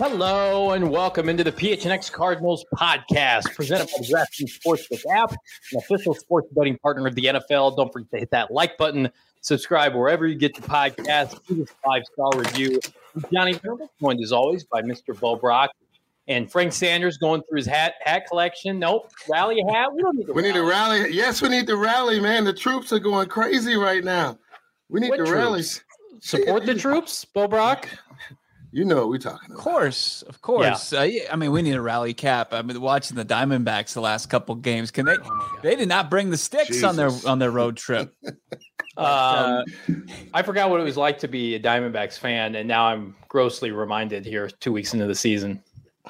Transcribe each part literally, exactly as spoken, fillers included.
Hello and welcome into the P H N X Cardinals podcast, presented by the DraftKings Sportsbook app, an official sports betting partner of the N F L. Don't forget to hit that like button, subscribe wherever you get your podcast, leave us a five-star review. I'm Johnny Turnbull, joined as always by Mister Bo Brock and Frank Sanders going through his hat hat collection. Nope, rally hat. We don't need to We rally. need to rally. Yes, we need to rally, man. The troops are going crazy right now. We need What to troops? rally. Support the troops, Bo Brock. You know what we're talking about. Of course, of course. Yeah. Uh, yeah, I mean, we need a rally cap. I mean, watching the Diamondbacks the last couple games, can they? Oh they did not bring the sticks Jesus. on their on their road trip. um, uh, I forgot what it was like to be a Diamondbacks fan, and now I'm grossly reminded here, two weeks into the season.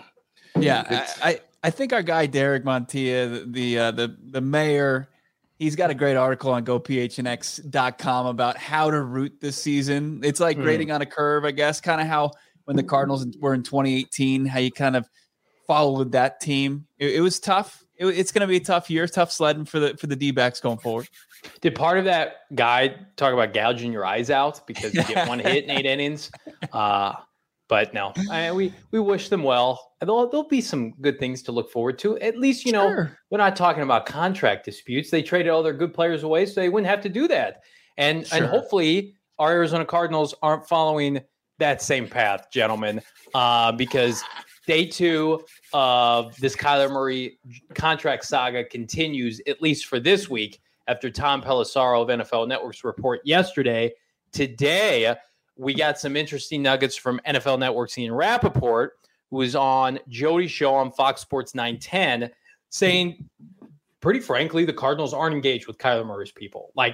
Yeah, I, I I think our guy Derek Montilla, the the, uh, the the mayor, he's got a great article on go P H N X dot com about how to root this season. It's like mm. grading on a curve, I guess, kind of how when the Cardinals were in twenty eighteen, how you kind of followed that team. It, it was tough. It, it's going to be a tough year, tough sledding for the for the D-backs going forward. Did part of that guide talk about gouging your eyes out because you get one hit in eight innings? Uh, but no, I, we we wish them well. There'll, there'll be some good things to look forward to. At least, you know, sure. We're not talking about contract disputes. They traded all their good players away, so they wouldn't have to do that. And sure. and hopefully our Arizona Cardinals aren't following that same path, gentlemen, uh, because day two of this Kyler Murray contract saga continues, at least for this week, after Tom Pelissero of N F L Network's report yesterday. Today, we got some interesting nuggets from N F L Network's Ian Rappaport, who was on Jody's show on Fox Sports nine ten, saying, pretty frankly, the Cardinals aren't engaged with Kyler Murray's people. Like,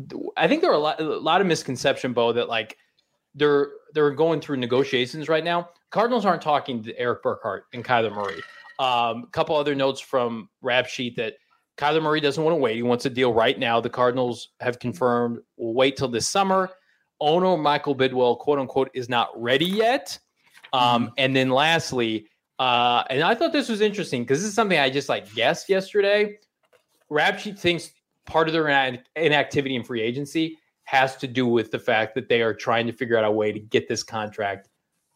I think there are a lot, a lot of misconception, Bo, that like they're they're going through negotiations right now. Cardinals aren't talking to Eric Burkhart and Kyler Murray. Um, a couple other notes from Rap Sheet that Kyler Murray doesn't want to wait. He wants a deal right now. The Cardinals have confirmed we'll wait till this summer. Owner Michael Bidwell, quote unquote, is not ready yet. Um, mm-hmm. And then lastly, uh, and I thought this was interesting because this is something I just like guessed yesterday. Rap Sheet thinks part of their inactivity in free agency has to do with the fact that they are trying to figure out a way to get this contract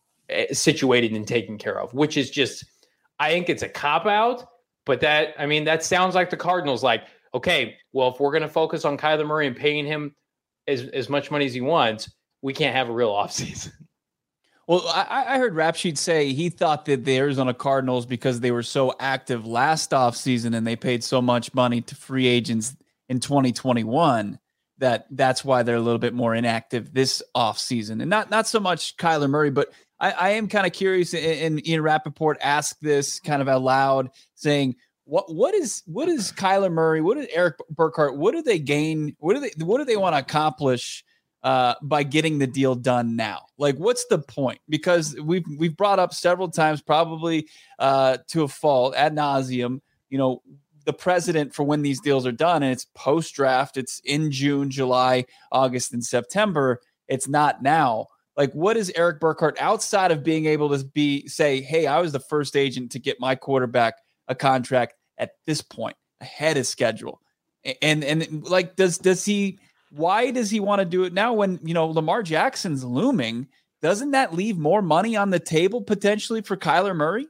situated and taken care of, which is just, I think it's a cop-out, but that, I mean, that sounds like the Cardinals like, okay, well, if we're going to focus on Kyler Murray and paying him as, as much money as he wants, we can't have a real offseason. Well, I, I heard Rap Sheet say he thought that the Arizona Cardinals, because they were so active last offseason and they paid so much money to free agents in twenty twenty-one, that that's why they're a little bit more inactive this offseason. And not not so much Kyler Murray, but I, I am kind of curious, and Ian Rappaport asked this kind of out loud, saying, what what is what is Kyler Murray, what is Eric Burkhart, what do they gain, what do they what do they want to accomplish uh, by getting the deal done now? Like, what's the point? Because we've we've brought up several times, probably uh, to a fault, ad nauseum, you know, the precedent for when these deals are done, and it's post-draft. It's in June, July, August, and September. It's not now. Like, what is Eric Burkhart outside of being able to be say, hey, I was the first agent to get my quarterback a contract at this point, ahead of schedule? And and like, does does he? Why does he want to do it now when, you know, Lamar Jackson's looming? Doesn't that leave more money on the table potentially for Kyler Murray?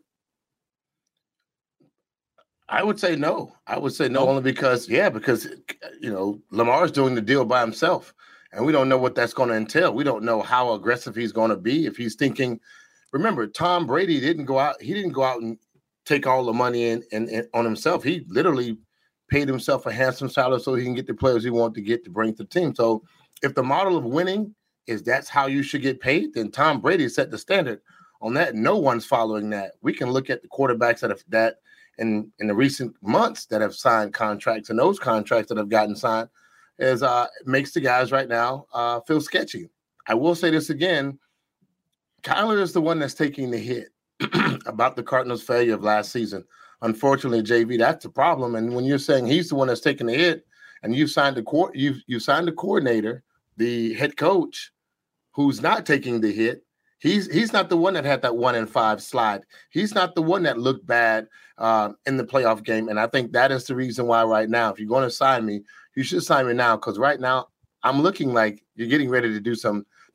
I would say no. I would say no, only because, yeah, because, you know, Lamar's doing the deal by himself, and we don't know what that's going to entail. We don't know how aggressive he's going to be. If he's thinking, remember, Tom Brady didn't go out. He didn't go out and take all the money in, in, in on himself. He literally paid himself a handsome salary so he can get the players he wanted to get to bring to the team. So if the model of winning is that's how you should get paid, then Tom Brady set the standard on that. No one's following that. We can look at the quarterbacks that have that in, in the recent months that have signed contracts, and those contracts that have gotten signed is uh, makes the guys right now uh, feel sketchy. I will say this again. Kyler is the one that's taking the hit about the Cardinals' failure of last season. Unfortunately, J V, that's the problem. And when you're saying he's the one that's taking the hit, and you've signed a co- you've you signed the coordinator, the head coach, who's not taking the hit, he's he's not the one that had that one in five slide. He's not the one that looked bad uh, in the playoff game. And I think that is the reason why right now, if you're going to sign me, you should sign me now, because right now I'm looking like you're getting ready to do some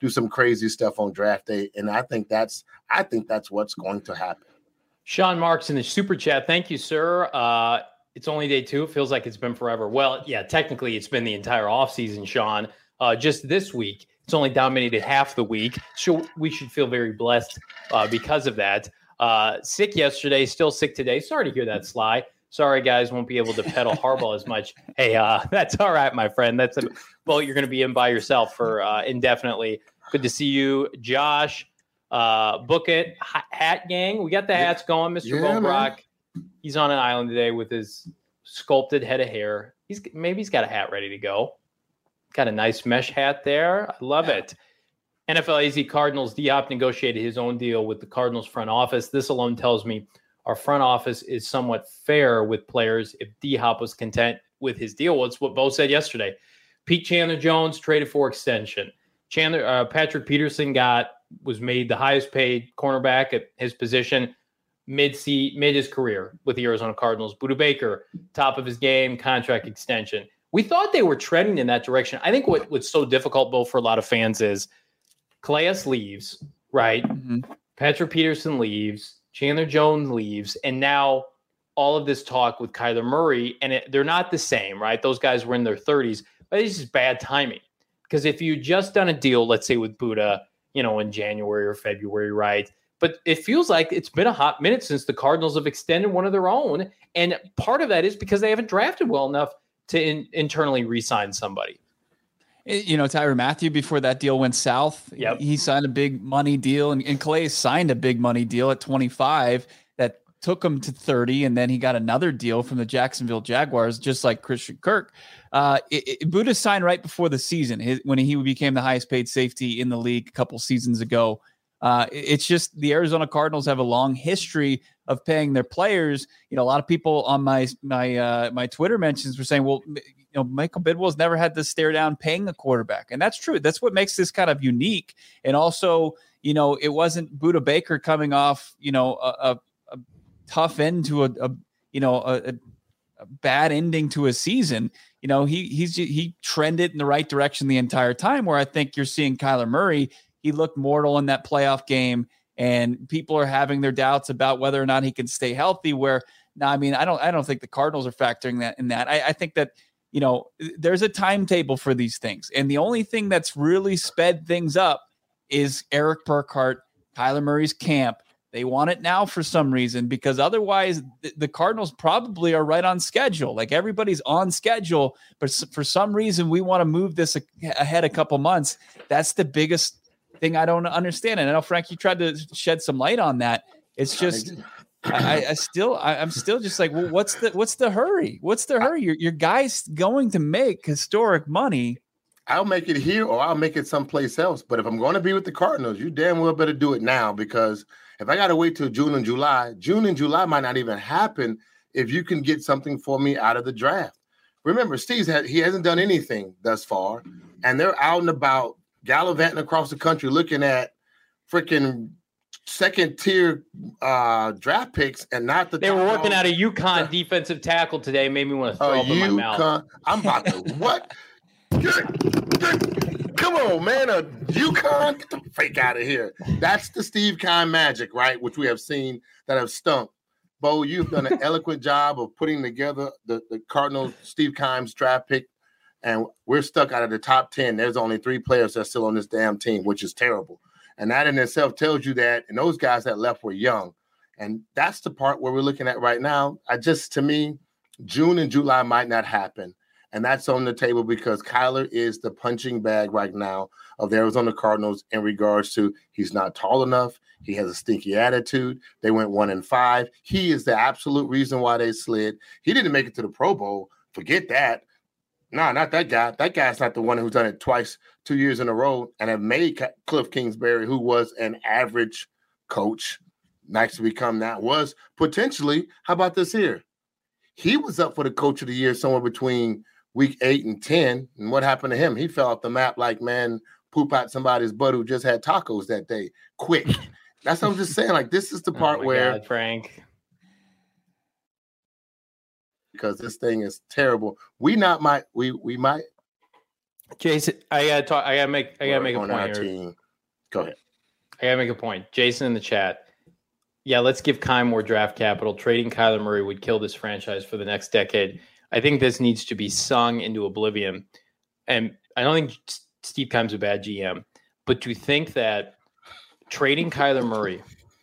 do some crazy stuff on draft day. And I think that's I think that's what's going to happen. Sean Marks in the super chat. Thank you, sir. Uh, it's only day two. It feels like it's been forever. Well, yeah, technically it's been the entire offseason, Sean. Uh, just this week, it's only dominated half the week. So we should feel very blessed uh, because of that. Uh, sick yesterday, still sick today. Sorry to hear that, Sly. Sorry, guys, won't be able to pedal Harbaugh as much. Hey, uh, that's all right, my friend. That's a boat you're going to be in by yourself for uh, indefinitely. Good to see you, Josh. Uh, book it, Hat Gang. We got the hats going, Mister Yeah, Bobrock. He's on an island today with his sculpted head of hair. He's maybe he's got a hat ready to go. Got a nice mesh hat there. I love yeah. it. N F L A Z Cardinals, D-Hop negotiated his own deal with the Cardinals front office. This alone tells me our front office is somewhat fair with players if D-Hop was content with his deal. Well, it's what Bo said yesterday. Pete Chandler-Jones traded for extension. Chandler uh, Patrick Peterson got was made the highest paid cornerback at his position mid mid his career with the Arizona Cardinals. Budda Baker, top of his game, contract extension. We thought they were trending in that direction. I think what, what's so difficult, Bo, for a lot of fans is Calais leaves, right? Mm-hmm. Patrick Peterson leaves, Chandler Jones leaves, and now all of this talk with Kyler Murray, and it, they're not the same, right? Those guys were in their thirties, but it's just bad timing. Because if you just done a deal, let's say with Budda, you know, in January or February, right? But it feels like it's been a hot minute since the Cardinals have extended one of their own. And part of that is because they haven't drafted well enough to in, internally re-sign somebody. You know, Tyrann Mathieu, before that deal went south, yep. he signed a big money deal. And, and Calais signed a big money deal at twenty-five that took him to thirty. And then he got another deal from the Jacksonville Jaguars, just like Christian Kirk. Uh, it, it, Budda signed right before the season his, when he became the highest paid safety in the league a couple seasons ago. Uh, it, it's just the Arizona Cardinals have a long history of paying their players. You know, a lot of people on my my uh, my Twitter mentions were saying, well, you know, Michael Bidwell's never had to stare down paying a quarterback. And that's true. That's what makes this kind of unique. And also, you know, it wasn't Budda Baker coming off, you know, a, a, a tough end to a, a you know, a, a bad ending to a season. You know, he he's he trended in the right direction the entire time, where I think you're seeing Kyler Murray. He looked mortal in that playoff game, and people are having their doubts about whether or not he can stay healthy. Where now, I mean, I don't I don't think the Cardinals are factoring that in that. I, I think that, you know, there's a timetable for these things. And the only thing that's really sped things up is Eric Burkhart, Kyler Murray's camp. They want it now for some reason, because otherwise th- the Cardinals probably are right on schedule. Like, everybody's on schedule, but s- for some reason we want to move this a- ahead a couple months. That's the biggest thing I don't understand. And I know, Frank, you tried to shed some light on that. It's just, I, I still, I, I'm still just like, well, what's the, what's the hurry? What's the hurry? Your, your guy's going to make historic money. I'll make it here or I'll make it someplace else. But if I'm going to be with the Cardinals, you damn well better do it now, because if I got to wait till June and July, June and July might not even happen if you can get something for me out of the draft. Remember, Steve's had, he hasn't done anything thus far, and they're out and about gallivanting across the country looking at freaking second tier uh, draft picks and not the. They were working out a UConn defensive tackle today. Made me want to throw uh, up in my mouth. I'm about to what? Come on, man. A UConn? Get the fake out of here. That's the Steve Keim magic, right? Which we have seen that have stunk. Bo, you've done an eloquent job of putting together the, the Cardinals, Steve Keim's draft pick, and we're stuck out of the top ten. There's only three players that are still on this damn team, which is terrible. And that in itself tells you that, and those guys that left were young. And that's the part where we're looking at right now. I just, to me, June and July might not happen. And that's on the table because Kyler is the punching bag right now of the Arizona Cardinals in regards to he's not tall enough. He has a stinky attitude. They went one and five. He is the absolute reason why they slid. He didn't make it to the Pro Bowl. Forget that. No, not that guy. That guy's not the one who's done it twice, two years in a row, and have made Cliff Kingsbury, who was an average coach, nice to become that, was potentially, how about this here? He was up for the coach of the year somewhere between week eight and ten. And what happened to him? He fell off the map like, man, poop out somebody's butt who just had tacos that day. Quick. That's what I'm just saying. Like, this is the part oh where God, Frank. Because this thing is terrible. We not might we we might Jason, I gotta talk. I gotta make. I gotta make a on point our here. team. Go ahead. I gotta make a point. Jason in the chat. Yeah, let's give Kai more draft capital. Trading Kyler Murray would kill this franchise for the next decade. I think this needs to be sung into oblivion. And I don't think Steve Keim's a bad G M, but to think that trading Kyler Murray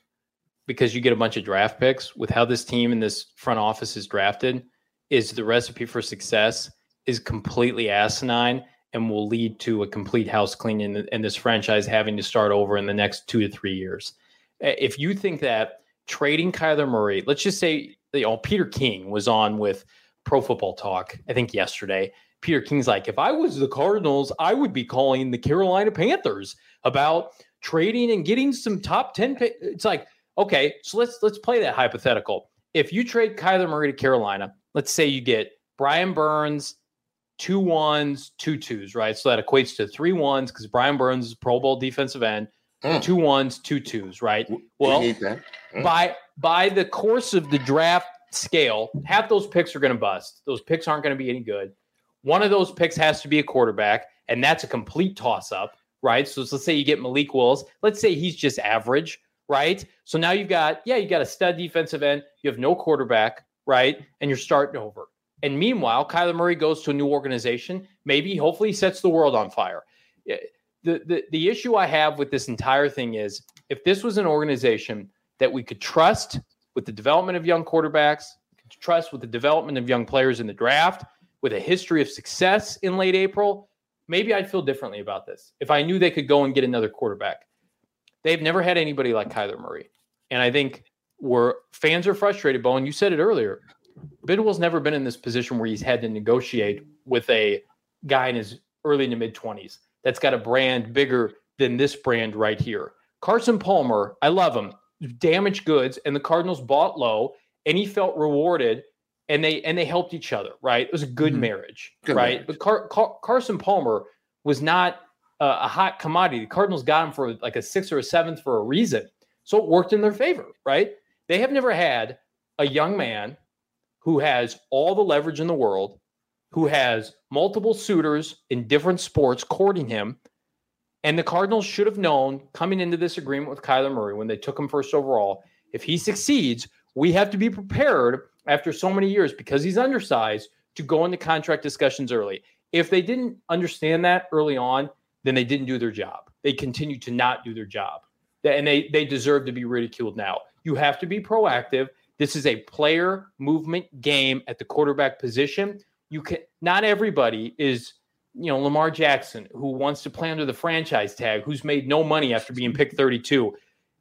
because you get a bunch of draft picks with how this team and this front office is drafted is the recipe for success is completely asinine and will lead to a complete house cleaning and this franchise having to start over in the next two to three years. If you think that trading Kyler Murray, let's just say, you know, Peter King was on with Pro Football Talk, I think yesterday. Peter King's like, if I was the Cardinals, I would be calling the Carolina Panthers about trading and getting some top ten pick. It's like, okay, so let's let's play that hypothetical. If you trade Kyler Murray to Carolina, let's say you get Brian Burns, two ones, two twos, right? So that equates to three ones because Brian Burns is Pro Bowl defensive end, mm. two ones, two twos, right? Well, mm. by by the course of the draft scale, half those picks are going to bust. Those picks aren't going to be any good. One of those picks has to be a quarterback, and that's a complete toss-up, right? So let's say you get Malik Willis. Let's say he's just average, right? So now you've got, yeah, you got a stud defensive end. You have no quarterback, right? And you're starting over. And meanwhile, Kyler Murray goes to a new organization. Maybe, hopefully, he sets the world on fire. The, the, the issue I have with this entire thing is if this was an organization that we could trust with the development of young quarterbacks, could trust with the development of young players in the draft, with a history of success in late April, maybe I'd feel differently about this. If I knew they could go and get another quarterback. They've never had anybody like Kyler Murray. And I think where fans are frustrated, Bowen, you said it earlier, Bidwell's never been in this position where he's had to negotiate with a guy in his early to mid-twenties that's got a brand bigger than this brand right here. Carson Palmer, I love him, damaged goods, and the Cardinals bought low, and he felt rewarded. And they and they helped each other, right? It was a good mm-hmm. marriage, good right? Marriage. But Car- Car- Carson Palmer was not uh, a hot commodity. The Cardinals got him for like a sixth or a seventh for a reason. So it worked in their favor, right? They have never had a young man who has all the leverage in the world, who has multiple suitors in different sports courting him. And the Cardinals should have known coming into this agreement with Kyler Murray when they took him first overall, if he succeeds, we have to be prepared after so many years, because he's undersized, to go into contract discussions early. If they didn't understand that early on, then they didn't do their job. They continue to not do their job. And they, they deserve to be ridiculed now. You have to be proactive. This is a player movement game at the quarterback position. You can not everybody is, you know, Lamar Jackson, who wants to play under the franchise tag, who's made no money after being picked thirty-two.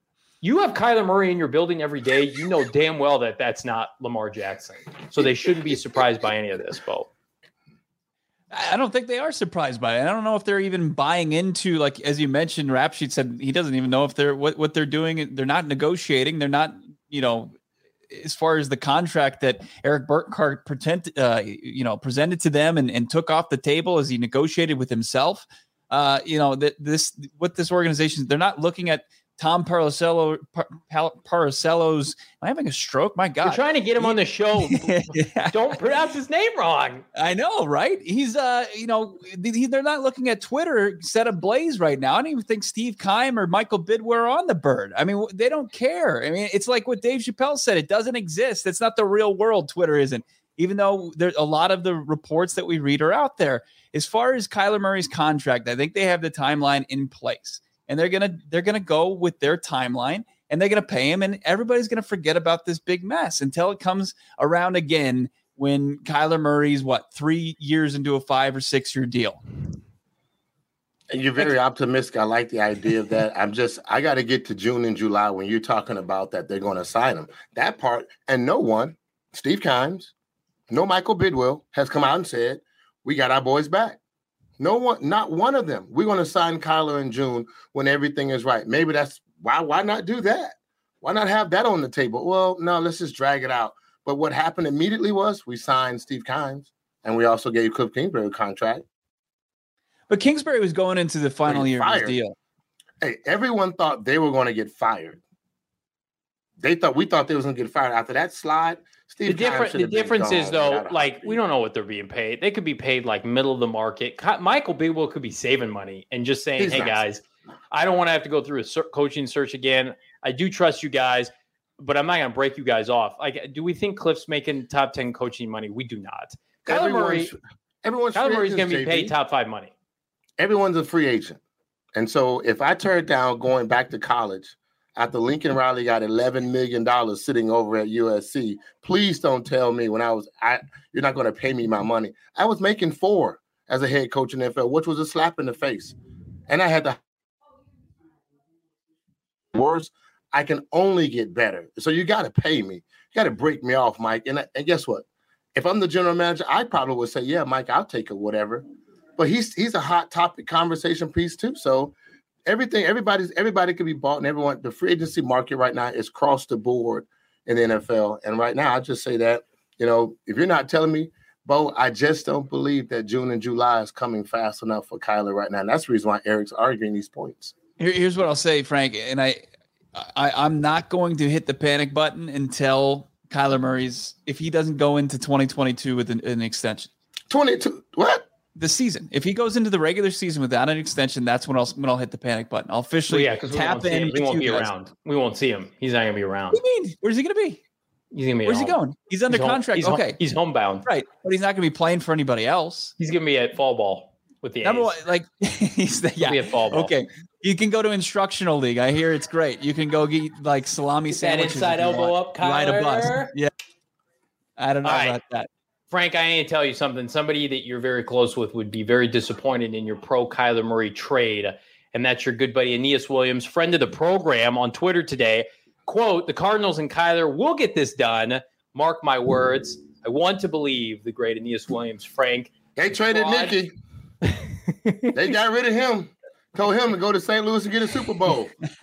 You have Kyler Murray in your building every day. You know damn well that that's not Lamar Jackson. So they shouldn't be surprised by any of this, Bo. I don't think they are surprised by it. I don't know if they're even buying into, like, as you mentioned, Rap Sheet said he doesn't even know if they're what, what they're doing. They're not negotiating. They're not, you know, as far as the contract that Eric Burkhart pretend, uh, you know, presented to them and, and took off the table as he negotiated with himself. Uh, you know, that this, what this organization, they're not looking at Tom Parcello, Par, Parcello's. Am I having a stroke? My God! You're trying to get him on the show. Yeah. Don't pronounce his name wrong. I know, right? He's, uh, you know, they're not looking at Twitter set ablaze right now. I don't even think Steve Keim or Michael Bidwell are on the bird. I mean, they don't care. I mean, it's like what Dave Chappelle said. It doesn't exist. It's not the real world. Twitter isn't. Even though there a lot of the reports that we read are out there. As far as Kyler Murray's contract, I think they have the timeline in place. And they're gonna they're gonna go with their timeline, and they're gonna pay him, and everybody's gonna forget about this big mess until it comes around again when Kyler Murray's what three years into a five or six year deal. And you're very optimistic. I like the idea of that. I'm just I got to get to June and July when you're talking about that they're going to sign him. That part, and no one, Steve Keim, no Michael Bidwell has come out and said we got our boys back. No one, not one of them. We're going to sign Kyler in June when everything is right. Maybe that's why. Why not do that? Why not have that on the table? Well, no, let's just drag it out. But what happened immediately was we signed Steve Keim, and we also gave Cliff Kingsbury a contract. But Kingsbury was going into the final year of his deal. Hey, everyone thought they were going to get fired. They thought we thought they was going to get fired after that slide. Steve the different the difference is though, like we don't know what they're being paid. They could be paid like middle of the market. Michael Bidwell could be saving money and just saying, He's "Hey nice. guys, I don't want to have to go through a ser- coaching search again. I do trust you guys, but I'm not going to break you guys off." Like, do we think Cliff's making top ten coaching money? We do not. Kyler Murray, everyone's Kyler Murray's going to be paid top five money. Everyone's a free agent, and so if I turn down going back to college after Lincoln Riley got eleven million dollars sitting over at U S C, please don't tell me when I was, I you're not going to pay me my money. I was making four as a head coach in the N F L, which was a slap in the face. And I had to worse. I can only get better. So you got to pay me. You got to break me off, Mike. And, and guess what? If I'm the general manager, I probably would say, yeah, Mike, I'll take it, whatever. But he's he's a hot topic conversation piece too. So everything, everybody's everybody can be bought, and everyone. The free agency market right now is across the board in the N F L. And right now, I just say that, you know, if you're not telling me, Bo, I just don't believe that June and July is coming fast enough for Kyler right now. And that's the reason why Eric's arguing these points. Here, here's what I'll say, Frank, and I, I, I'm not going to hit the panic button until Kyler Murray's, if he doesn't go into twenty twenty-two with an, an extension. twenty-two, what? The season. If he goes into the regular season without an extension, that's when I'll when I'll hit the panic button. I'll officially well, yeah, tap we in. He won't be guys. around. We won't see him. He's not going to be around. What do you mean? Where's he going to be? He's going to be. Where's he home. going? He's under he's contract. He's okay, home, he's homebound. Right, but he's not going to be playing for anybody else. He's going to be at fall ball with the Number A's. one, like he's the, yeah. He'll be at fall ball. Okay, you can go to instructional league. I hear it's great. You can go get like salami sandwiches. That inside elbow up, Kyler. Ride a bus. Yeah. I don't know All about right. that. Frank, I need to tell you something. Somebody that you're very close with would be very disappointed in your pro Kyler Murray trade, and that's your good buddy Aeneas Williams, friend of the program, on Twitter today. Quote, "The Cardinals and Kyler will get this done. Mark my words. I want to believe," the great Aeneas Williams. Frank. They traded fraud. Nicky. They got rid of him. Told him to go to Saint Louis and get a Super Bowl.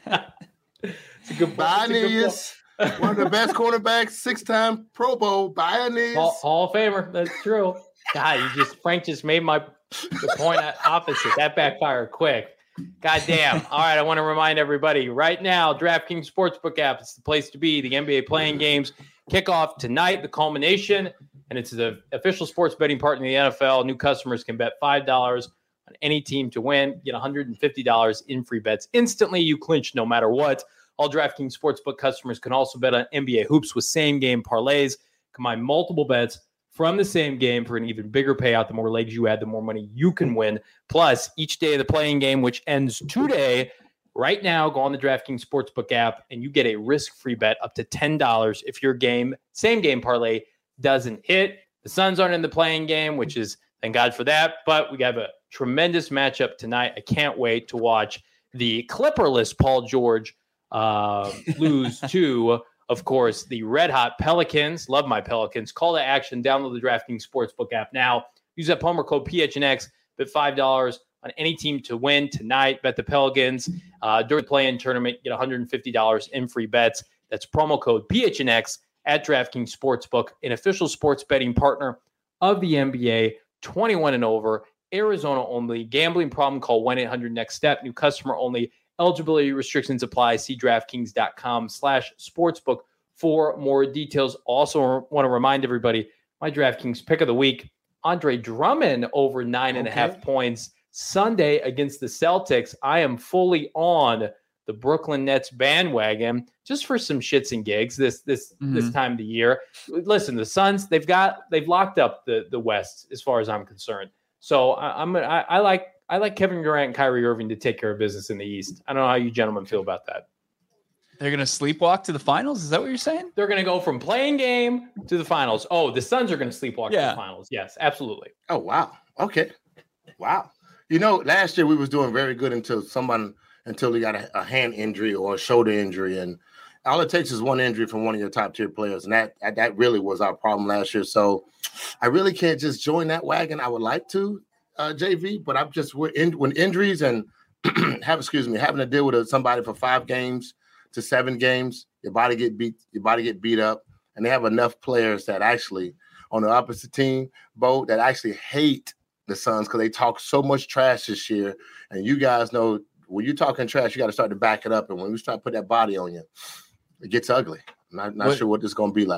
It's a good Bye, Aeneas. One of the best cornerbacks, six-time Pro Bowl. Bye, Aeneas. Hall, Hall of Famer. That's true. God, you just Frank just made my the point opposite. That backfired quick. God damn. All right, I want to remind everybody right now, DraftKings Sportsbook app is the place to be. The N B A playing games kick off tonight, the culmination, and it's the official sports betting partner of the N F L. New customers can bet five dollars on any team to win, get one hundred fifty dollars in free bets instantly. You clinch no matter what. All DraftKings Sportsbook customers can also bet on N B A hoops with same-game parlays. Combine multiple bets from the same game for an even bigger payout. The more legs you add, the more money you can win. Plus, each day of the playing game, which ends today, right now, go on the DraftKings Sportsbook app, and you get a risk-free bet up to ten dollars if your game, same-game parlay, doesn't hit. The Suns aren't in the playing game, which is, thank God for that, but we have a tremendous matchup tonight. I can't wait to watch the Clipperless Paul George uh, lose to, of course, the red-hot Pelicans. Love my Pelicans. Call to action. Download the DraftKings Sportsbook app now. Use that promo code P H N X. Bet five dollars on any team to win tonight. Bet the Pelicans. Uh, during the play-in tournament, get one hundred fifty dollars in free bets. That's promo code P H N X at DraftKings Sportsbook, an official sports betting partner of the N B A. twenty-one and over, Arizona only. Gambling problem, call one eight hundred next step. New customer only. Eligibility restrictions apply. See DraftKings.com slash sportsbook for more details. Also want to remind everybody, my DraftKings pick of the week, Andre Drummond over nine and okay. a half points Sunday against the Celtics. I am fully on the Brooklyn Nets bandwagon just for some shits and gigs this this mm-hmm. this time of the year. Listen, the Suns, they've got they've locked up the the West as far as I'm concerned. So I, I'm I, I like I like Kevin Durant and Kyrie Irving to take care of business in the East. I don't know how you gentlemen feel about that. They're going to sleepwalk to the finals? Is that what you're saying? They're going to go from playing game to the finals. Oh, the Suns are going to sleepwalk yeah. to the finals. Yes, absolutely. Oh, wow. Okay. Wow. You know, last year we was doing very good until someone until they got a, a hand injury or a shoulder injury. And all it takes is one injury from one of your top tier players. And that, that really was our problem last year. So I really can't just join that wagon. I would like to, uh, J V, but I'm just we're in, when injuries and have, excuse me, having to deal with a, somebody for five games to seven games, your body get beat, your body get beat up. And they have enough players that actually on the opposite team, Bo, that actually hate the Suns because they talk so much trash this year. And you guys know when you're talking trash, you got to start to back it up. And when we start to put that body on you, it gets ugly. I'm not, not what, sure what this is going to be like.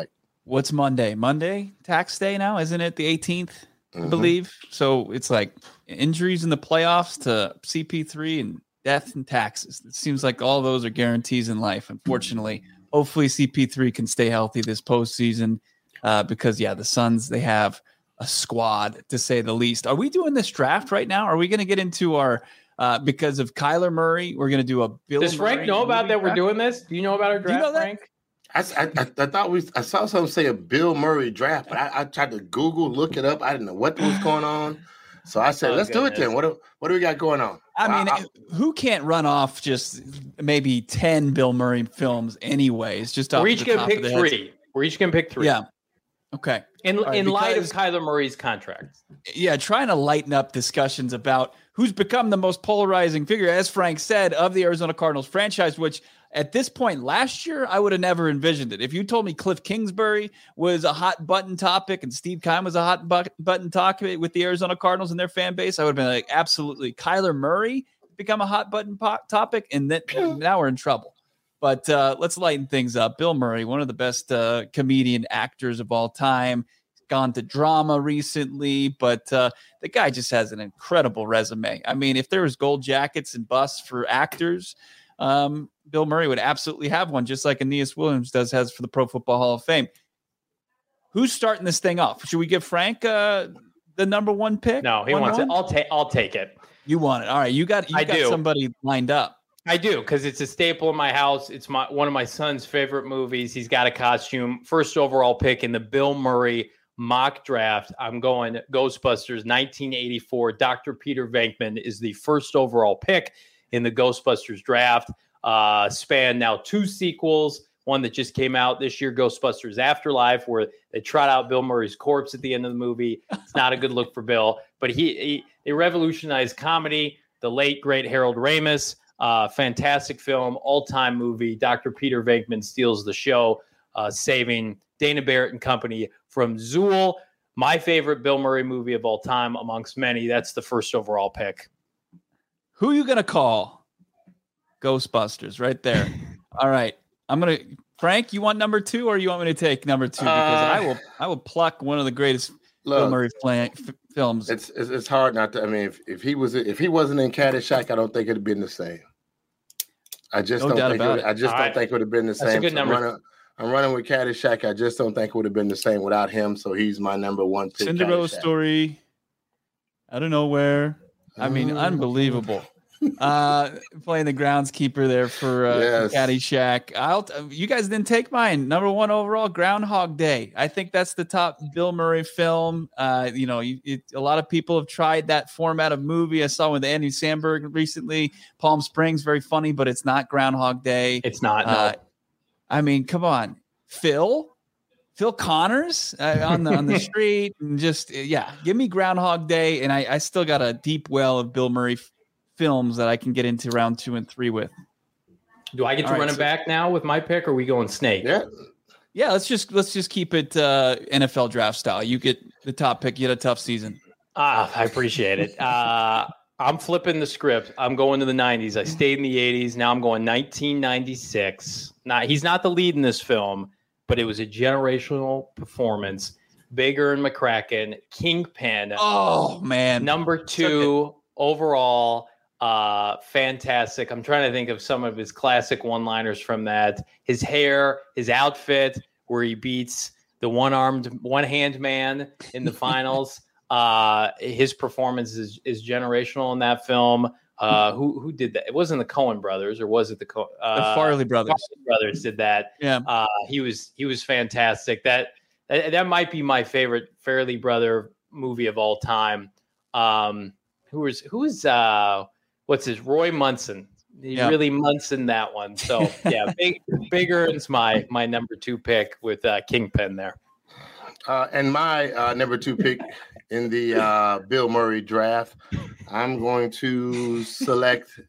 what's Monday? Monday tax day now, isn't it? The eighteenth, Mm-hmm. I believe. So it's like injuries in the playoffs to C P three and death and taxes. It seems like all those are guarantees in life. Unfortunately, hopefully C P three can stay healthy this postseason uh, because yeah, the Suns, they have a squad to say the least. Are we doing this draft right now? Are we going to get into our uh, because of Kyler Murray? We're going to do a Bill. Does Frank Murray know about that? draft? We're doing this. Do you know about our draft, you know that? Frank? I, I, I thought we I saw something say a Bill Murray draft, but I, I tried to Google, look it up. I didn't know what was going on. So I said, Oh, let's goodness. do it then. What do, what do we got going on? I mean, I, who can't run off just maybe ten Bill Murray films anyways? Just off We're the each going to top pick of the heads. three. We're each going to pick three. Yeah. Okay. In right, in light of because- Kyler Murray's contract. Yeah, trying to lighten up discussions about who's become the most polarizing figure, as Frank said, of the Arizona Cardinals franchise, which at this point last year, I would have never envisioned it. If you told me Cliff Kingsbury was a hot button topic and Steve Keim was a hot bu- button topic with the Arizona Cardinals and their fan base, I would have been like, absolutely. Kyler Murray become a hot button po- topic, and then now we're in trouble. But uh, let's lighten things up. Bill Murray, one of the best uh, comedian actors of all time, gone to drama recently, but uh, the guy just has an incredible resume. I mean, if there was gold jackets and busts for actors, um, Bill Murray would absolutely have one, just like Aeneas Williams does has for the Pro Football Hall of Fame. Who's starting this thing off? Should we give Frank uh, the number one pick? No, he one, wants one? it. I'll take. I'll take it. You want it. All right, you got. You I got do. somebody lined up. I do, because it's a staple in my house. It's my one of my son's favorite movies. He's got a costume. First overall pick in the Bill Murray mock draft. I'm going Ghostbusters nineteen eighty-four. Doctor Peter Venkman is the first overall pick in the Ghostbusters draft. Uh, span now two sequels. One that just came out this year, Ghostbusters Afterlife, where they trot out Bill Murray's corpse at the end of the movie. It's not a good look for Bill, but he, he they revolutionized comedy. The late great Harold Ramis. Uh, fantastic film, all-time movie. Doctor Peter Venkman steals the show, uh, saving Dana Barrett and company from Zool. My favorite Bill Murray movie of all time, amongst many. That's the first overall pick. Who are you gonna call? Ghostbusters, right there. All right, I'm gonna. Frank, you want number two, or you want me to take number two? Because Uh, I will. I will pluck one of the greatest Bill Look, Murray flan- f- films. it's, it's it's hard not to. I mean, if, if he was if he wasn't in Caddyshack, I don't think it'd been the same. I just No don't doubt think. It about would, it. I just All don't right. think it would have been the That's a same. good So I'm number. running, I'm running with Caddyshack. I just don't think it would have been the same without him. So he's my number one pick. Cinderella Caddyshack. story. I don't know where. I mean, Mm. unbelievable. Uh, playing the groundskeeper there for uh, Yes. Caddyshack. I'll. T- you guys didn't take mine. Number one overall, Groundhog Day. I think that's the top Bill Murray film. Uh, you know, you, it, a lot of people have tried that format of movie. I saw with Andy Samberg recently. Palm Springs, very funny, but it's not Groundhog Day. It's not. No. Uh, I mean, come on, Phil. Phil Connors uh, on the on the street, and just yeah, give me Groundhog Day, and I, I still got a deep well of Bill Murray f- films that I can get into round two and three with. Do I get to all right, run it so- back now with my pick, or are we going snake? Yeah. Yeah, let's just let's just keep it uh, N F L draft style. You get the top pick. You had a tough season. Ah, I appreciate it. Uh, I'm flipping the script. I'm going to the nineties. I stayed in the eighties. Now I'm going nineteen ninety-six. Now, he's not the lead in this film, but it was a generational performance. Bigger and McCracken, Kingpin, Oh man, number two overall. Uh, fantastic. I'm trying to think of some of his classic one-liners from that. His hair, his outfit, where he beats the one-armed, one-hand man in the finals. Uh, his performance is, is generational in that film. Uh, who who did that? It wasn't the Coen brothers, or was it the Co- uh, the Farley brothers. Farley brothers did that. Yeah, Uh, he was he was fantastic. That, that that might be my favorite Farley brother movie of all time. Um, who was who was uh, what's his Roy Munson? He Yeah. really Munson that one. So yeah, big bigger is my my number two pick with uh, Kingpin there. Uh, and my uh, number two pick in the uh, Bill Murray draft, I'm going to select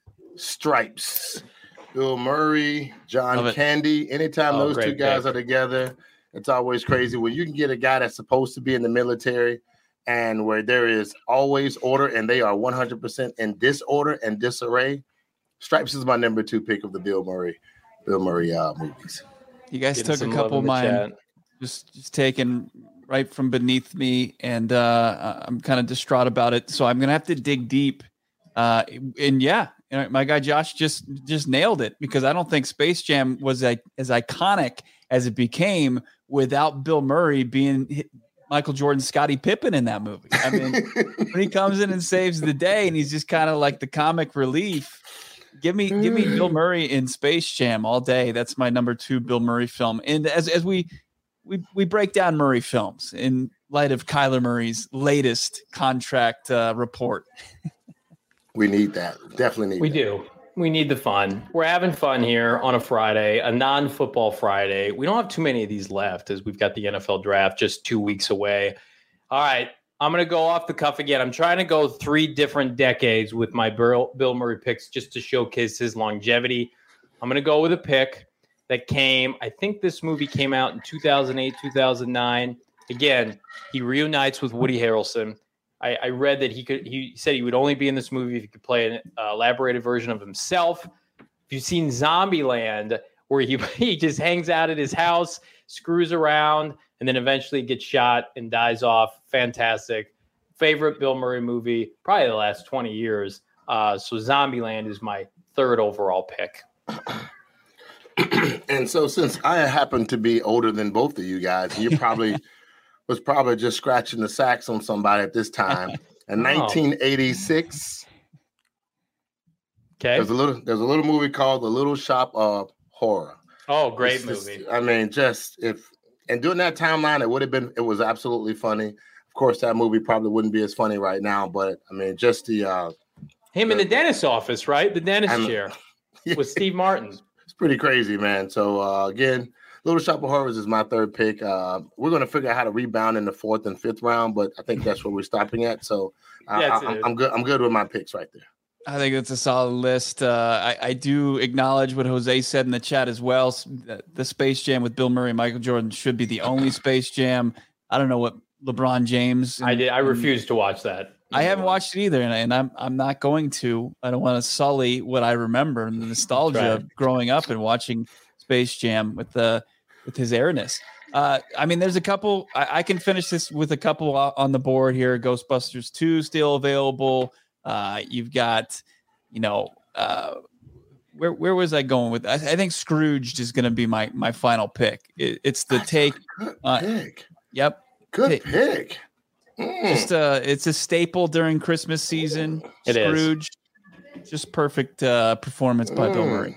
Stripes. Bill Murray, Love John it. Candy. Anytime Oh, those two great guys pick. are together, it's always crazy. When you can get a guy that's supposed to be in the military and where there is always order and they are one hundred percent in disorder and disarray, Stripes is my number two pick of the Bill Murray, Bill Murray uh, movies. you guys Getting took a some love couple in of the mine. chat. just just taken right from beneath me, and uh, I'm kind of distraught about it. So I'm gonna have to dig deep. Uh, and yeah, my guy Josh just just nailed it, because I don't think Space Jam was a, as iconic as it became without Bill Murray being Michael Jordan, Scottie Pippen in that movie. I mean, when he comes in and saves the day, and he's just kind of like the comic relief. Give me, give me Bill Murray in Space Jam all day. That's my number two Bill Murray film. And as as we we we break down Murray films in light of Kyler Murray's latest contract uh, report. We need that. Definitely need we that. We do. We need the fun. We're having fun here on a Friday, a non-football Friday. We don't have too many of these left, as we've got the N F L draft just two weeks away. All right. I'm going to go off the cuff again. I'm trying to go three different decades with my Bill, Bill Murray picks just to showcase his longevity. I'm going to go with a pick that came, I think this movie came out in two thousand eight, two thousand nine. Again, he reunites with Woody Harrelson. I, I read that he could. He said he would only be in this movie if he could play an uh, elaborated version of himself. If you've seen Zombieland, where he, he just hangs out at his house, screws around, and then eventually gets shot and dies off. Fantastic. Favorite Bill Murray movie, probably the last twenty years. Uh, so Zombieland is my third overall pick. And so since I happen to be older than both of you guys, you probably was probably just scratching the sax on somebody at this time. In Oh. nineteen eighty-six, Okay. there's a little there's a little movie called The Little Shop of Horror. Oh, great It's just- movie. I mean, just if and during that timeline, it would have been it was absolutely funny. Of course, that movie probably wouldn't be as funny right now, but I mean, just the uh, Him in the dentist's office, right? The dentist I'm- chair with Steve Martin. it's pretty crazy, man. So uh, again, Little Shop of Horrors is my third pick. Uh, we're going to figure out how to rebound in the fourth and fifth round, but I think that's where we're stopping at. So uh, That's I, it. I'm good. I'm good with my picks right there. I think it's a solid list. Uh, I, I do acknowledge what Jose said in the chat as well. S- The Space Jam with Bill Murray and Michael Jordan should be the only Space Jam. I don't know what LeBron James. I and- did. I and- refuse to watch that. I haven't watched it either, and, I, and I'm I'm not going to. I don't want to sully what I remember and the nostalgia Right. of growing up and watching Space Jam with the with his airness. Uh, I mean, there's a couple. I, I can finish this with a couple o- on the board here. Ghostbusters two still available. Uh, you've got, you know, uh, where where was I going with? I, I think Scrooged is going to be my my final pick. It, it's the take. Good Uh, pick. Yep. Good hey. pick. Mm. Just uh it's a staple during Christmas season. It is. Scrooge. Just perfect uh performance by Bill Mm. Murray.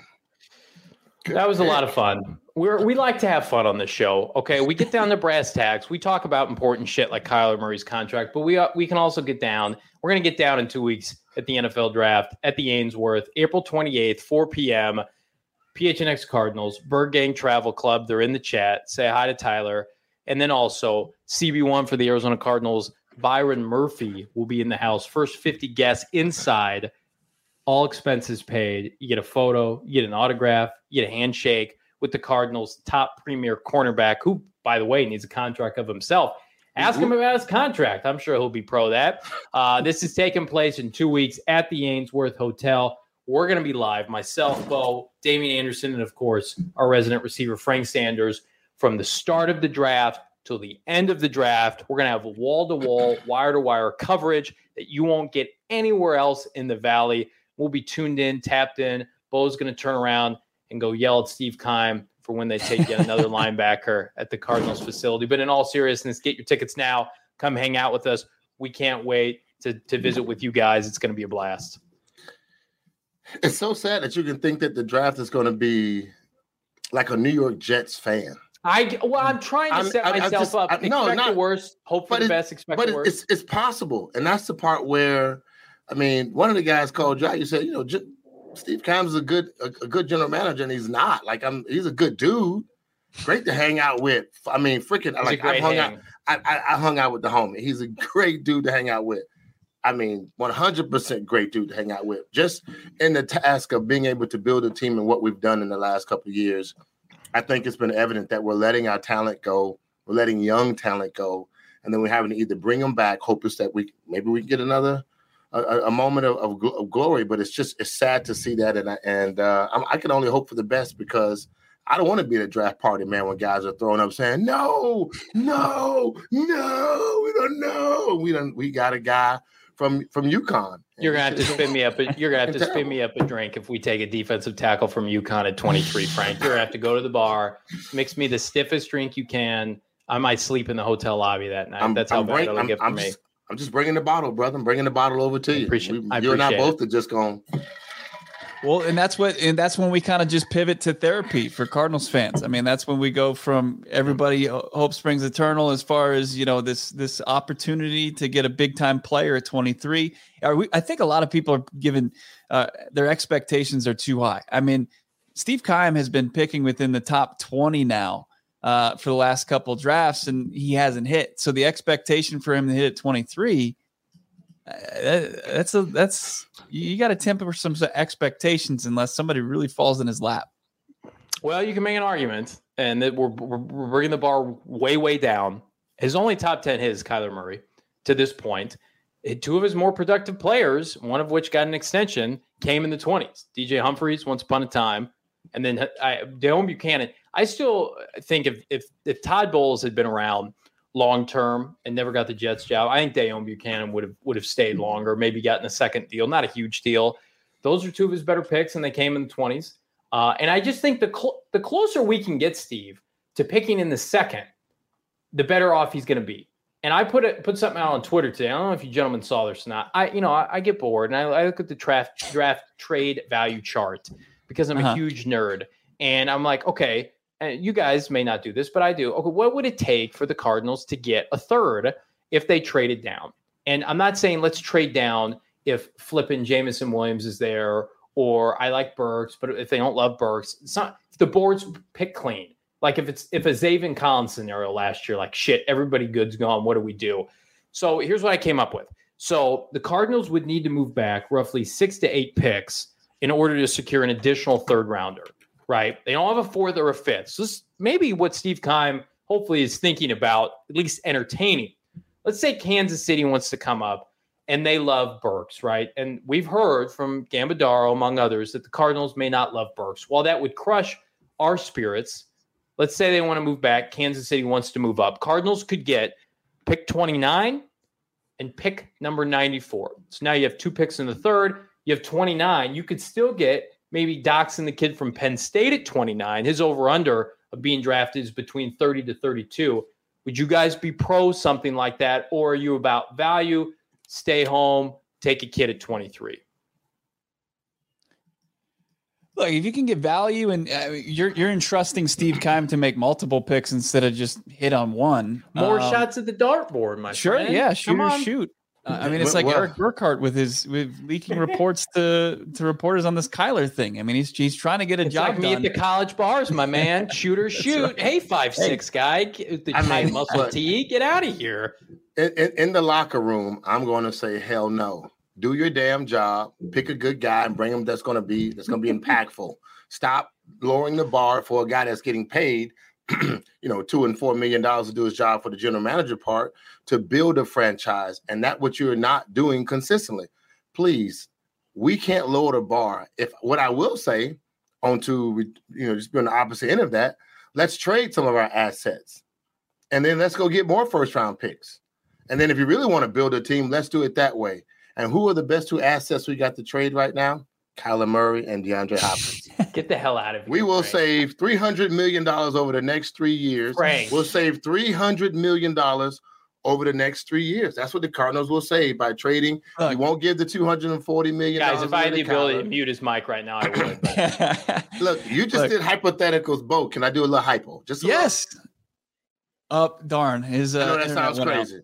Good That was a pick. lot of fun. We're we like to have fun on this show. Okay, we get down to brass tacks. We talk about important shit like Kyler Murray's contract, but we uh, we can also get down. We're gonna get down in two weeks at the N F L draft at the Ainsworth, April twenty-eighth, four p.m. P H N X Cardinals, Bird Gang Travel Club. They're in the chat. Say hi to Tyler. And then also C B one for the Arizona Cardinals. Byron Murphy will be in the house. First fifty guests inside. All expenses paid. You get a photo, you get an autograph, you get a handshake with the Cardinals' top premier cornerback, who, by the way, needs a contract of himself. Ask him about his contract. I'm sure he'll be pro that. Uh, this is taking place in two weeks at the Ainsworth Hotel. We're going to be live. Myself, Bo, Damian Anderson, and, of course, our resident receiver, Frank Sanders, from the start of the draft till the end of the draft. We're going to have wall-to-wall, wire-to-wire coverage that you won't get anywhere else in the Valley. We'll be tuned in, tapped in. Bo's going to turn around and go yell at Steve Keim for when they take yet another linebacker at the Cardinals facility. But in all seriousness, get your tickets now. Come hang out with us. We can't wait to, to visit with you guys. It's going to be a blast. It's so sad that you can think that the draft is going to be like a New York Jets fan. I well, I'm trying to I'm- set I- I myself just- up. I- no, expect not- the worst, hope for but the it- best, expect But the it, worst. it's it's possible, and that's the part where, I mean, one of the guys called you out. You said, you know, J- Steve Keim is a good a, a good general manager, and he's not. Like I'm, he's a good dude, great to hang out with. I mean, freaking It's a like I great hung hang. out. I, I I hung out with the homie. He's a great dude to hang out with. I mean, one hundred percent great dude to hang out with. Just in the task of being able to build a team and what we've done in the last couple of years, I think it's been evident that we're letting our talent go. We're letting young talent go. And then we're having to either bring them back, hope is that we maybe we can get another a, a moment of, of, gl- of glory. But it's just it's sad to see that. And, I, and uh, I'm, I can only hope for the best because I don't want to be at a draft party, man, when guys are throwing up saying, no, no, no, we don't know. We don't we got a guy from from UConn. You're gonna have to spin me up. A, you're gonna have to spin me up a drink if we take a defensive tackle from UConn at twenty-three, Frank. You're gonna have to go to the bar, mix me the stiffest drink you can. I might sleep in the hotel lobby that night. I'm, That's how I'm bad bring, it'll I'm, get for I'm me. Just, I'm just bringing the bottle, brother. I'm bringing the bottle over to you. I appreciate, we, I you appreciate and I both it. are just going. Well, and that's what, and that's when we kind of just pivot to therapy for Cardinals fans. I mean, that's when we go from everybody hope springs eternal as far as, you know, this, this opportunity to get a big time player at twenty-three. Are we, I think a lot of people are given uh, their expectations are too high. I mean, Steve Keim has been picking within the top twenty now uh, for the last couple drafts, and he hasn't hit. So the expectation for him to hit at twenty-three, Uh, that's a that's you got to temper some expectations unless somebody really falls in his lap. Well, you can make an argument, and that we're, we're, we're bringing the bar way, way down. His only top ten hit is Kyler Murray to this point. Two of his more productive players, one of which got an extension, came in the twenties. D J Humphries, once upon a time, and then I, Deone Bucannon. I still think if if if Todd Bowles had been around long term and never got the Jets job, I think Deone Bucannon would have would have stayed longer, maybe gotten a second deal, not a huge deal. Those are two of his better picks, and they came in the twenties. Uh, and I just think the cl- the closer we can get Steve to picking in the second, the better off he's going to be. And I put it put something out on Twitter today. I don't know if you gentlemen saw this or not. I you know I, I get bored and I, I look at the draft draft trade value chart because I'm uh-huh. a huge nerd, and I'm like, okay. And you guys may not do this, but I do. Okay, what would it take for the Cardinals to get a third if they traded down? And I'm not saying let's trade down if flipping Jameson Williams is there, or I like Burks, but if they don't love Burks, it's not. If the board's pick clean, like if it's if a Zaven Collins scenario last year, like shit, everybody good's gone. What do we do? So here's what I came up with. So the Cardinals would need to move back roughly six to eight picks in order to secure an additional third rounder. Right. They don't have a fourth or a fifth. So this maybe what Steve Keim hopefully is thinking about, at least entertaining. Let's say Kansas City wants to come up and they love Burks, right? And we've heard from Gambadaro, among others, that the Cardinals may not love Burks. While that would crush our spirits, let's say they want to move back. Kansas City wants to move up. Cardinals could get pick twenty-nine and pick number ninety-four. So now you have two picks in the third. You have twenty-nine. You could still get maybe doxing the kid from Penn State at twenty-nine. His over-under of being drafted is between thirty to thirty-two. Would you guys be pro something like that, or are you about value, stay home, take a kid at twenty-three? Look, if you can get value and uh, you're you're entrusting Steve Keim to make multiple picks instead of just hit on one. More um, shots at the dartboard, my sure, friend. yeah, shoot or shoot. Uh, I mean, it's like well, Eric Burkhart with his with leaking reports to, to reporters on this Kyler thing. I mean, he's he's trying to get a it's job like me done. at the college bars, my man. Shoot or shoot. Right. Hey, five hey. six guy, the I tight mean, muscle tee, get out of here. In, in, in the locker room, I'm going to say hell no. Do your damn job. Pick a good guy and bring him. That's going to be that's going to be impactful. Stop lowering the bar for a guy that's getting paid, you know, two and four million dollars to do his job for the general manager part to build a franchise, and that's what you're not doing consistently. Please, we can't lower the bar. If what I will say, on to you know, just be on the opposite end of that, let's trade some of our assets, and then let's go get more first round picks. And then if you really want to build a team, let's do it that way. And who are the best two assets we got to trade right now? Kyler Murray and DeAndre Hopkins. Get the hell out of here. We will Frank. save three hundred million dollars over the next three years. Frank. We'll save three hundred million dollars over the next three years. That's what the Cardinals will save by trading. Look, you won't give the two hundred forty million dollars. Guys, if I had the ability to mute his mic right now, I would. But. Look, you just Look. did hypotheticals, Bo. Can I do a little hypo? Just a yes. Up, oh, darn. His, uh, I know that sounds crazy.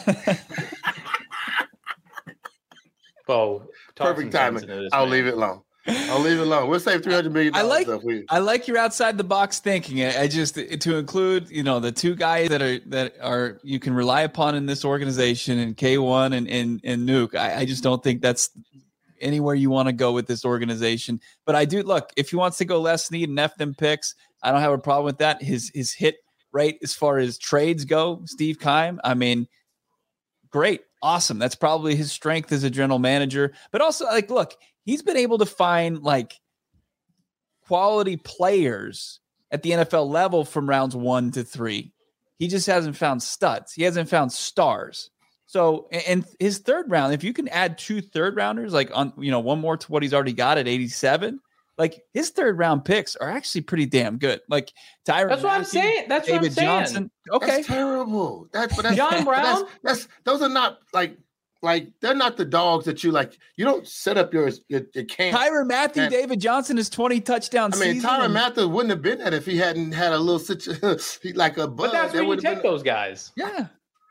Bo, perfect timing. I'll man. leave it alone. I'll leave it alone. We'll save three hundred million dollars. I like we... I like your outside the box thinking. I, I just to include, you know, the two guys that are that are you can rely upon in this organization, and K one and and, and Nuke. I, I just don't think that's anywhere you want to go with this organization. But I do look, if he wants to go Les Snead and F them picks, I don't have a problem with that. His his hit rate as far as trades go, Steve Keim, I mean, great. Awesome. That's probably his strength as a general manager. But also, like, look, he's been able to find like quality players at the N F L level from rounds one to three. He just hasn't found studs. He hasn't found stars. So, and his third round, if you can add two third rounders, like on, you know, one more to what he's already got at eighty-seven, like his third round picks are actually pretty damn good. Like Tyrann That's what Mathieu, I'm saying. That's David what I'm saying. Johnson. Okay. That's terrible. That's, but that's John Brown. That's, that's those are not like like they're not the dogs that you like. You don't set up your your, your camp. Tyrann Mathieu, and, David Johnson is twenty touchdowns. I mean, Tyrann Mathieu wouldn't have been that if he hadn't had a little situation like a buzz. But that's that where you take been, those guys. Yeah.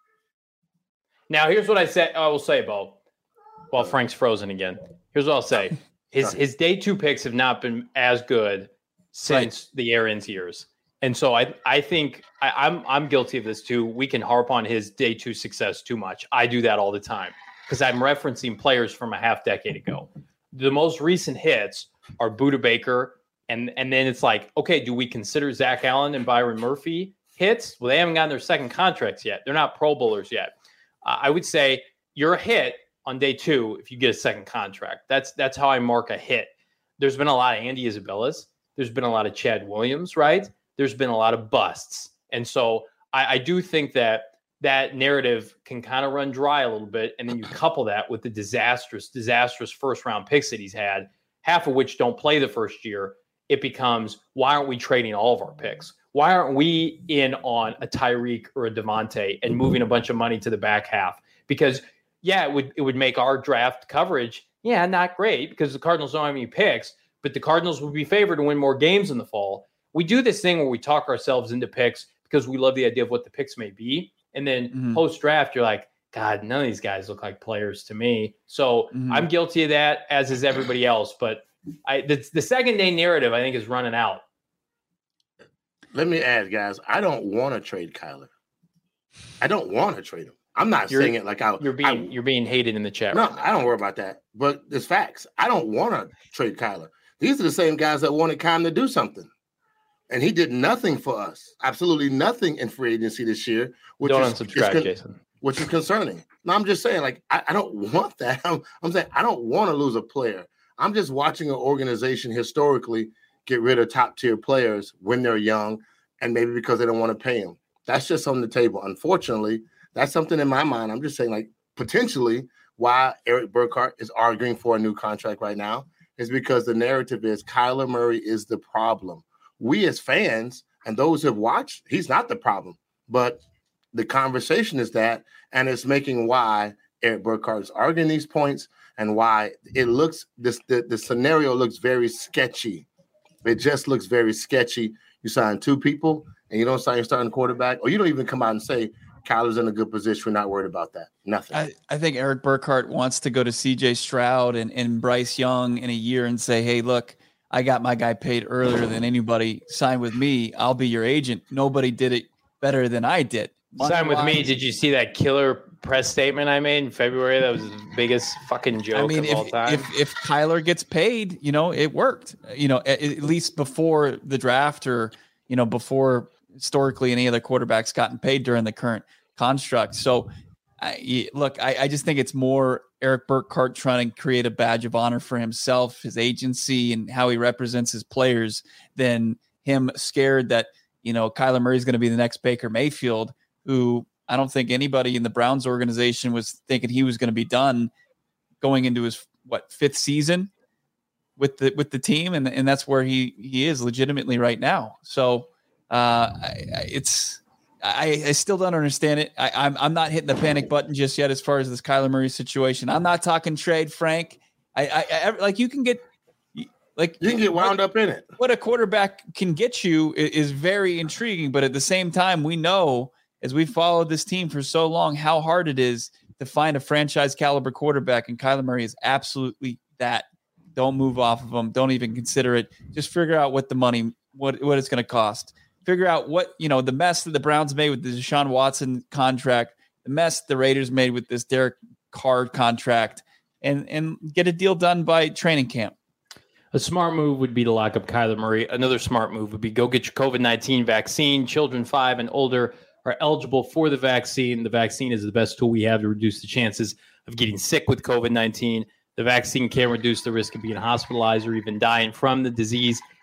Now, here's what I say. I will say, Bo, while Frank's frozen again. Here's what I'll say. His his day two picks have not been as good since right. the Arians years. And so I I think I, I'm I'm guilty of this too. We can harp on his day two success too much. I do that all the time because I'm referencing players from a half decade ago. The most recent hits are Buda Baker, and and then it's like, okay, do we consider Zach Allen and Byron Murphy hits? Well, they haven't gotten their second contracts yet. They're not Pro Bowlers yet. Uh, I would say you're a hit on day two if you get a second contract. That's that's how I mark a hit. There's been a lot of Andy Isabellas. There's been a lot of Chad Williams, right? There's been a lot of busts. And so I, I do think that that narrative can kind of run dry a little bit. And then you couple that with the disastrous, disastrous first round picks that he's had, half of which don't play the first year. It becomes, why aren't we trading all of our picks? Why aren't we in on a Tyreek or a Devontae and moving a bunch of money to the back half? Because, yeah, it would it would make our draft coverage, yeah, not great because the Cardinals don't have any picks, but the Cardinals would be favored to win more games in the fall. We do this thing where we talk ourselves into picks because we love the idea of what the picks may be. And then mm-hmm. post-draft, you're like, God, none of these guys look like players to me. So mm-hmm. I'm guilty of that, as is everybody else. But I, the, the second day narrative, I think, is running out. Let me add, guys, I don't want to trade Kyler. I don't want to trade him. I'm not you're, saying it like I. You're being I, you're being hated in the chat. No, right now. I don't worry about that. But it's facts. I don't want to trade Kyler. These are the same guys that wanted Cam to do something, and he did nothing for us. Absolutely nothing in free agency this year. Which don't is, unsubscribe, con- Jason. Which is concerning. No, I'm just saying, like I, I don't want that. I'm, I'm saying I don't want to lose a player. I'm just watching an organization historically get rid of top tier players when they're young, and maybe because they don't want to pay them. That's just on the table. Unfortunately, that's something in my mind. I'm just saying, like, potentially why Eric Burkhart is arguing for a new contract right now is because the narrative is Kyler Murray is the problem. We as fans and those who have watched, he's not the problem. But the conversation is that, and it's making why Eric Burkhart is arguing these points and why it looks, this the, the scenario looks very sketchy. It just looks very sketchy. You sign two people and you don't sign your starting quarterback, or you don't even come out and say Kyler's in a good position. We're not worried about that. Nothing. I, I think Eric Burkhart wants to go to C J Stroud and, and Bryce Young in a year and say, hey, look, I got my guy paid earlier than anybody. Sign with me. I'll be your agent. Nobody did it better than I did. Money Sign with wise, me. Did you see that killer press statement I made in February? That was the biggest fucking joke I mean, of if, all time. If if Kyler gets paid, you know, it worked. You know, at, at least before the draft, or you know, before historically any other quarterbacks gotten paid during the current construct. So, I, look, I, I just think it's more Eric Burkhart trying to create a badge of honor for himself, his agency, and how he represents his players than him scared that, you know, Kyler Murray is going to be the next Baker Mayfield, who I don't think anybody in the Browns organization was thinking he was going to be done going into his, what, fifth season with the with the team. And, and that's where he, he is legitimately right now. So uh, I, it's I, I still don't understand it. I, I'm I'm not hitting the panic button just yet as far as this Kyler Murray situation. I'm not talking trade, Frank. I, I, I like you can get like you can get wound what, up in it. What a quarterback can get you is, is very intriguing, but at the same time, we know as we followed this team for so long how hard it is to find a franchise caliber quarterback, and Kyler Murray is absolutely that. Don't move off of him. Don't even consider it. Just figure out what the money, what what it's going to cost. Figure out what, you know, the mess that the Browns made with the Deshaun Watson contract, the mess the Raiders made with this Derek Carr contract, and and get a deal done by training camp. A smart move would be to lock up Kyler Murray. Another smart move would be go get your COVID nineteen vaccine. Children five and older are eligible for the vaccine. The vaccine is the best tool we have to reduce the chances of getting sick with COVID nineteen. The vaccine can reduce the risk of being hospitalized or even dying from the disease.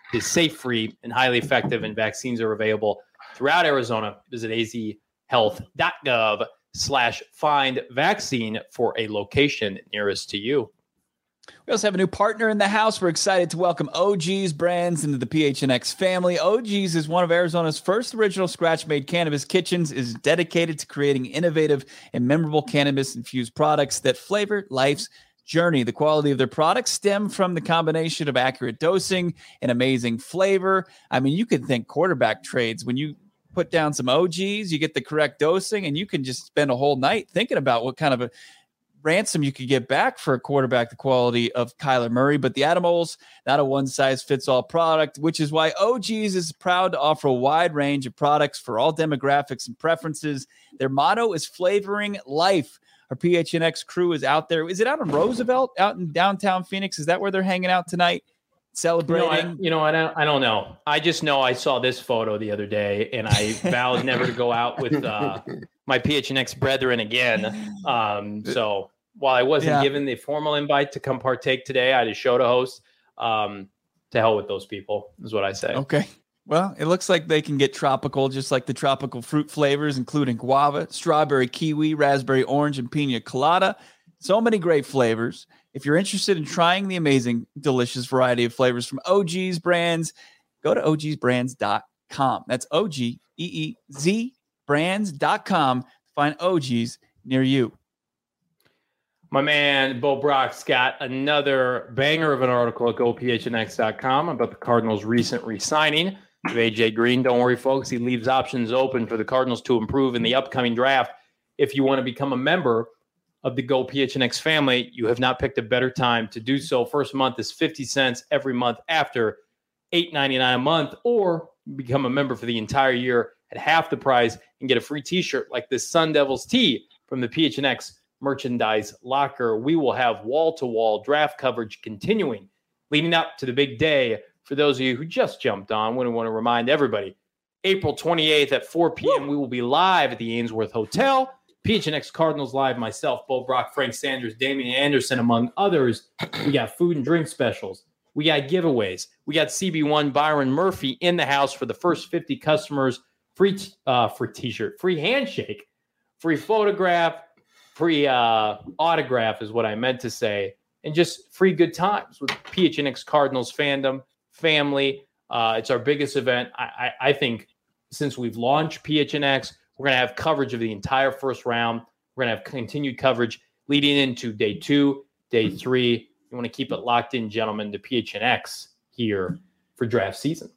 is safe, free, and highly effective, and vaccines are available throughout Arizona. Visit azhealth.gov slash find vaccine for a location nearest to you. We also have a new partner in the house. We're excited to welcome O G's Brands into the P H N X family. O G's is one of Arizona's first original scratch-made cannabis kitchens, is dedicated to creating innovative and memorable cannabis-infused products that flavor life's journey. The quality of their products stem from the combination of accurate dosing and amazing flavor. I mean, you can think quarterback trades. When you put down some O G's, you get the correct dosing, and you can just spend a whole night thinking about what kind of a ransom you could get back for a quarterback the quality of Kyler Murray. But the Animals, not a one-size-fits-all product, which is why O G's is proud to offer a wide range of products for all demographics and preferences. Their motto is flavoring life. Our P H N X crew is out there. Is it out on Roosevelt, out in downtown Phoenix? Is that where they're hanging out tonight, celebrating? You know, I, you know, I don't, I don't know. I just know I saw this photo the other day, and I vowed never to go out with uh, my P H N X brethren again. Um, so while I wasn't yeah. given the formal invite to come partake today, I had a show to host. Um, to hell with those people is what I say. Okay. Well, it looks like they can get tropical, just like the tropical fruit flavors, including guava, strawberry, kiwi, raspberry, orange, and pina colada. So many great flavors. If you're interested in trying the amazing, delicious variety of flavors from O G's Brands, go to O G's brands dot com. That's O G E E Z brands dot com to find O G's near you. My man, Bo Brock's got another banger of an article at go P H N X dot com about the Cardinals' recent re-signing of A J Green. Don't worry, folks. He leaves options open for the Cardinals to improve in the upcoming draft. If you want to become a member of the Go P H N X family, you have not picked a better time to do so. First month is fifty cents every month after eight ninety-nine a month, or become a member for the entire year at half the price and get a free t-shirt like this Sun Devils tee from the P H N X merchandise locker. We will have wall-to-wall draft coverage continuing leading up to the big day. For those of you who just jumped on, we want to remind everybody, April twenty-eighth at four p.m., we will be live at the Ainsworth Hotel. P H N X Cardinals Live, myself, Bo Brock, Frank Sanders, Damian Anderson, among others. We got food and drink specials. We got giveaways. We got C B one Byron Murphy in the house for the first fifty customers. Free uh, free t-shirt, free handshake, free photograph, free uh, autograph is what I meant to say, and just free good times with P H N X Cardinals fandom, family. Uh, it's our biggest event. I, I, I think since we've launched P H N X, we're going to have coverage of the entire first round. We're going to have continued coverage leading into day two, day three. You want to keep it locked in, gentlemen, to P H N X here for draft season.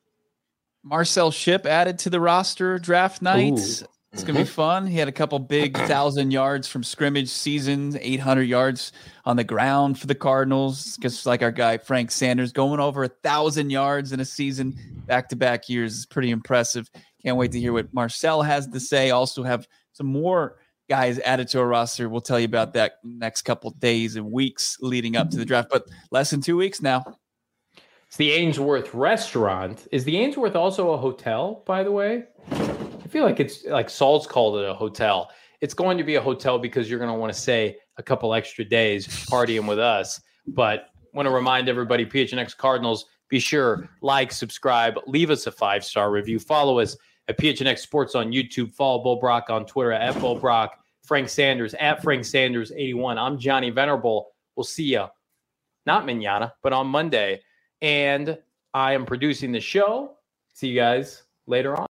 Marcel Shipp added to the roster draft nights. Ooh. It's going to be fun. He had a couple big thousand yards from scrimmage seasons, eight hundred yards on the ground for the Cardinals. Just like our guy, Frank Sanders, going over a thousand yards in a season back-to-back years is pretty impressive. Can't wait to hear what Marcel has to say. Also have some more guys added to our roster. We'll tell you about that next couple days and weeks leading up to the draft, but less than two weeks now. It's the Ainsworth restaurant. Is the Ainsworth also a hotel, by the way? I feel like it's like Saul's called it a hotel. It's going to be a hotel because you're going to want to stay a couple extra days partying with us. But want to remind everybody, P H N X Cardinals, be sure, like, subscribe, leave us a five-star review. Follow us at P H N X Sports on YouTube. Follow Bo Brock on Twitter at Bo Brock. Frank Sanders at Frank Sanders eighty-one. I'm Johnny Venerable. We'll see you, not mañana, but on Monday. And I am producing the show. See you guys later on.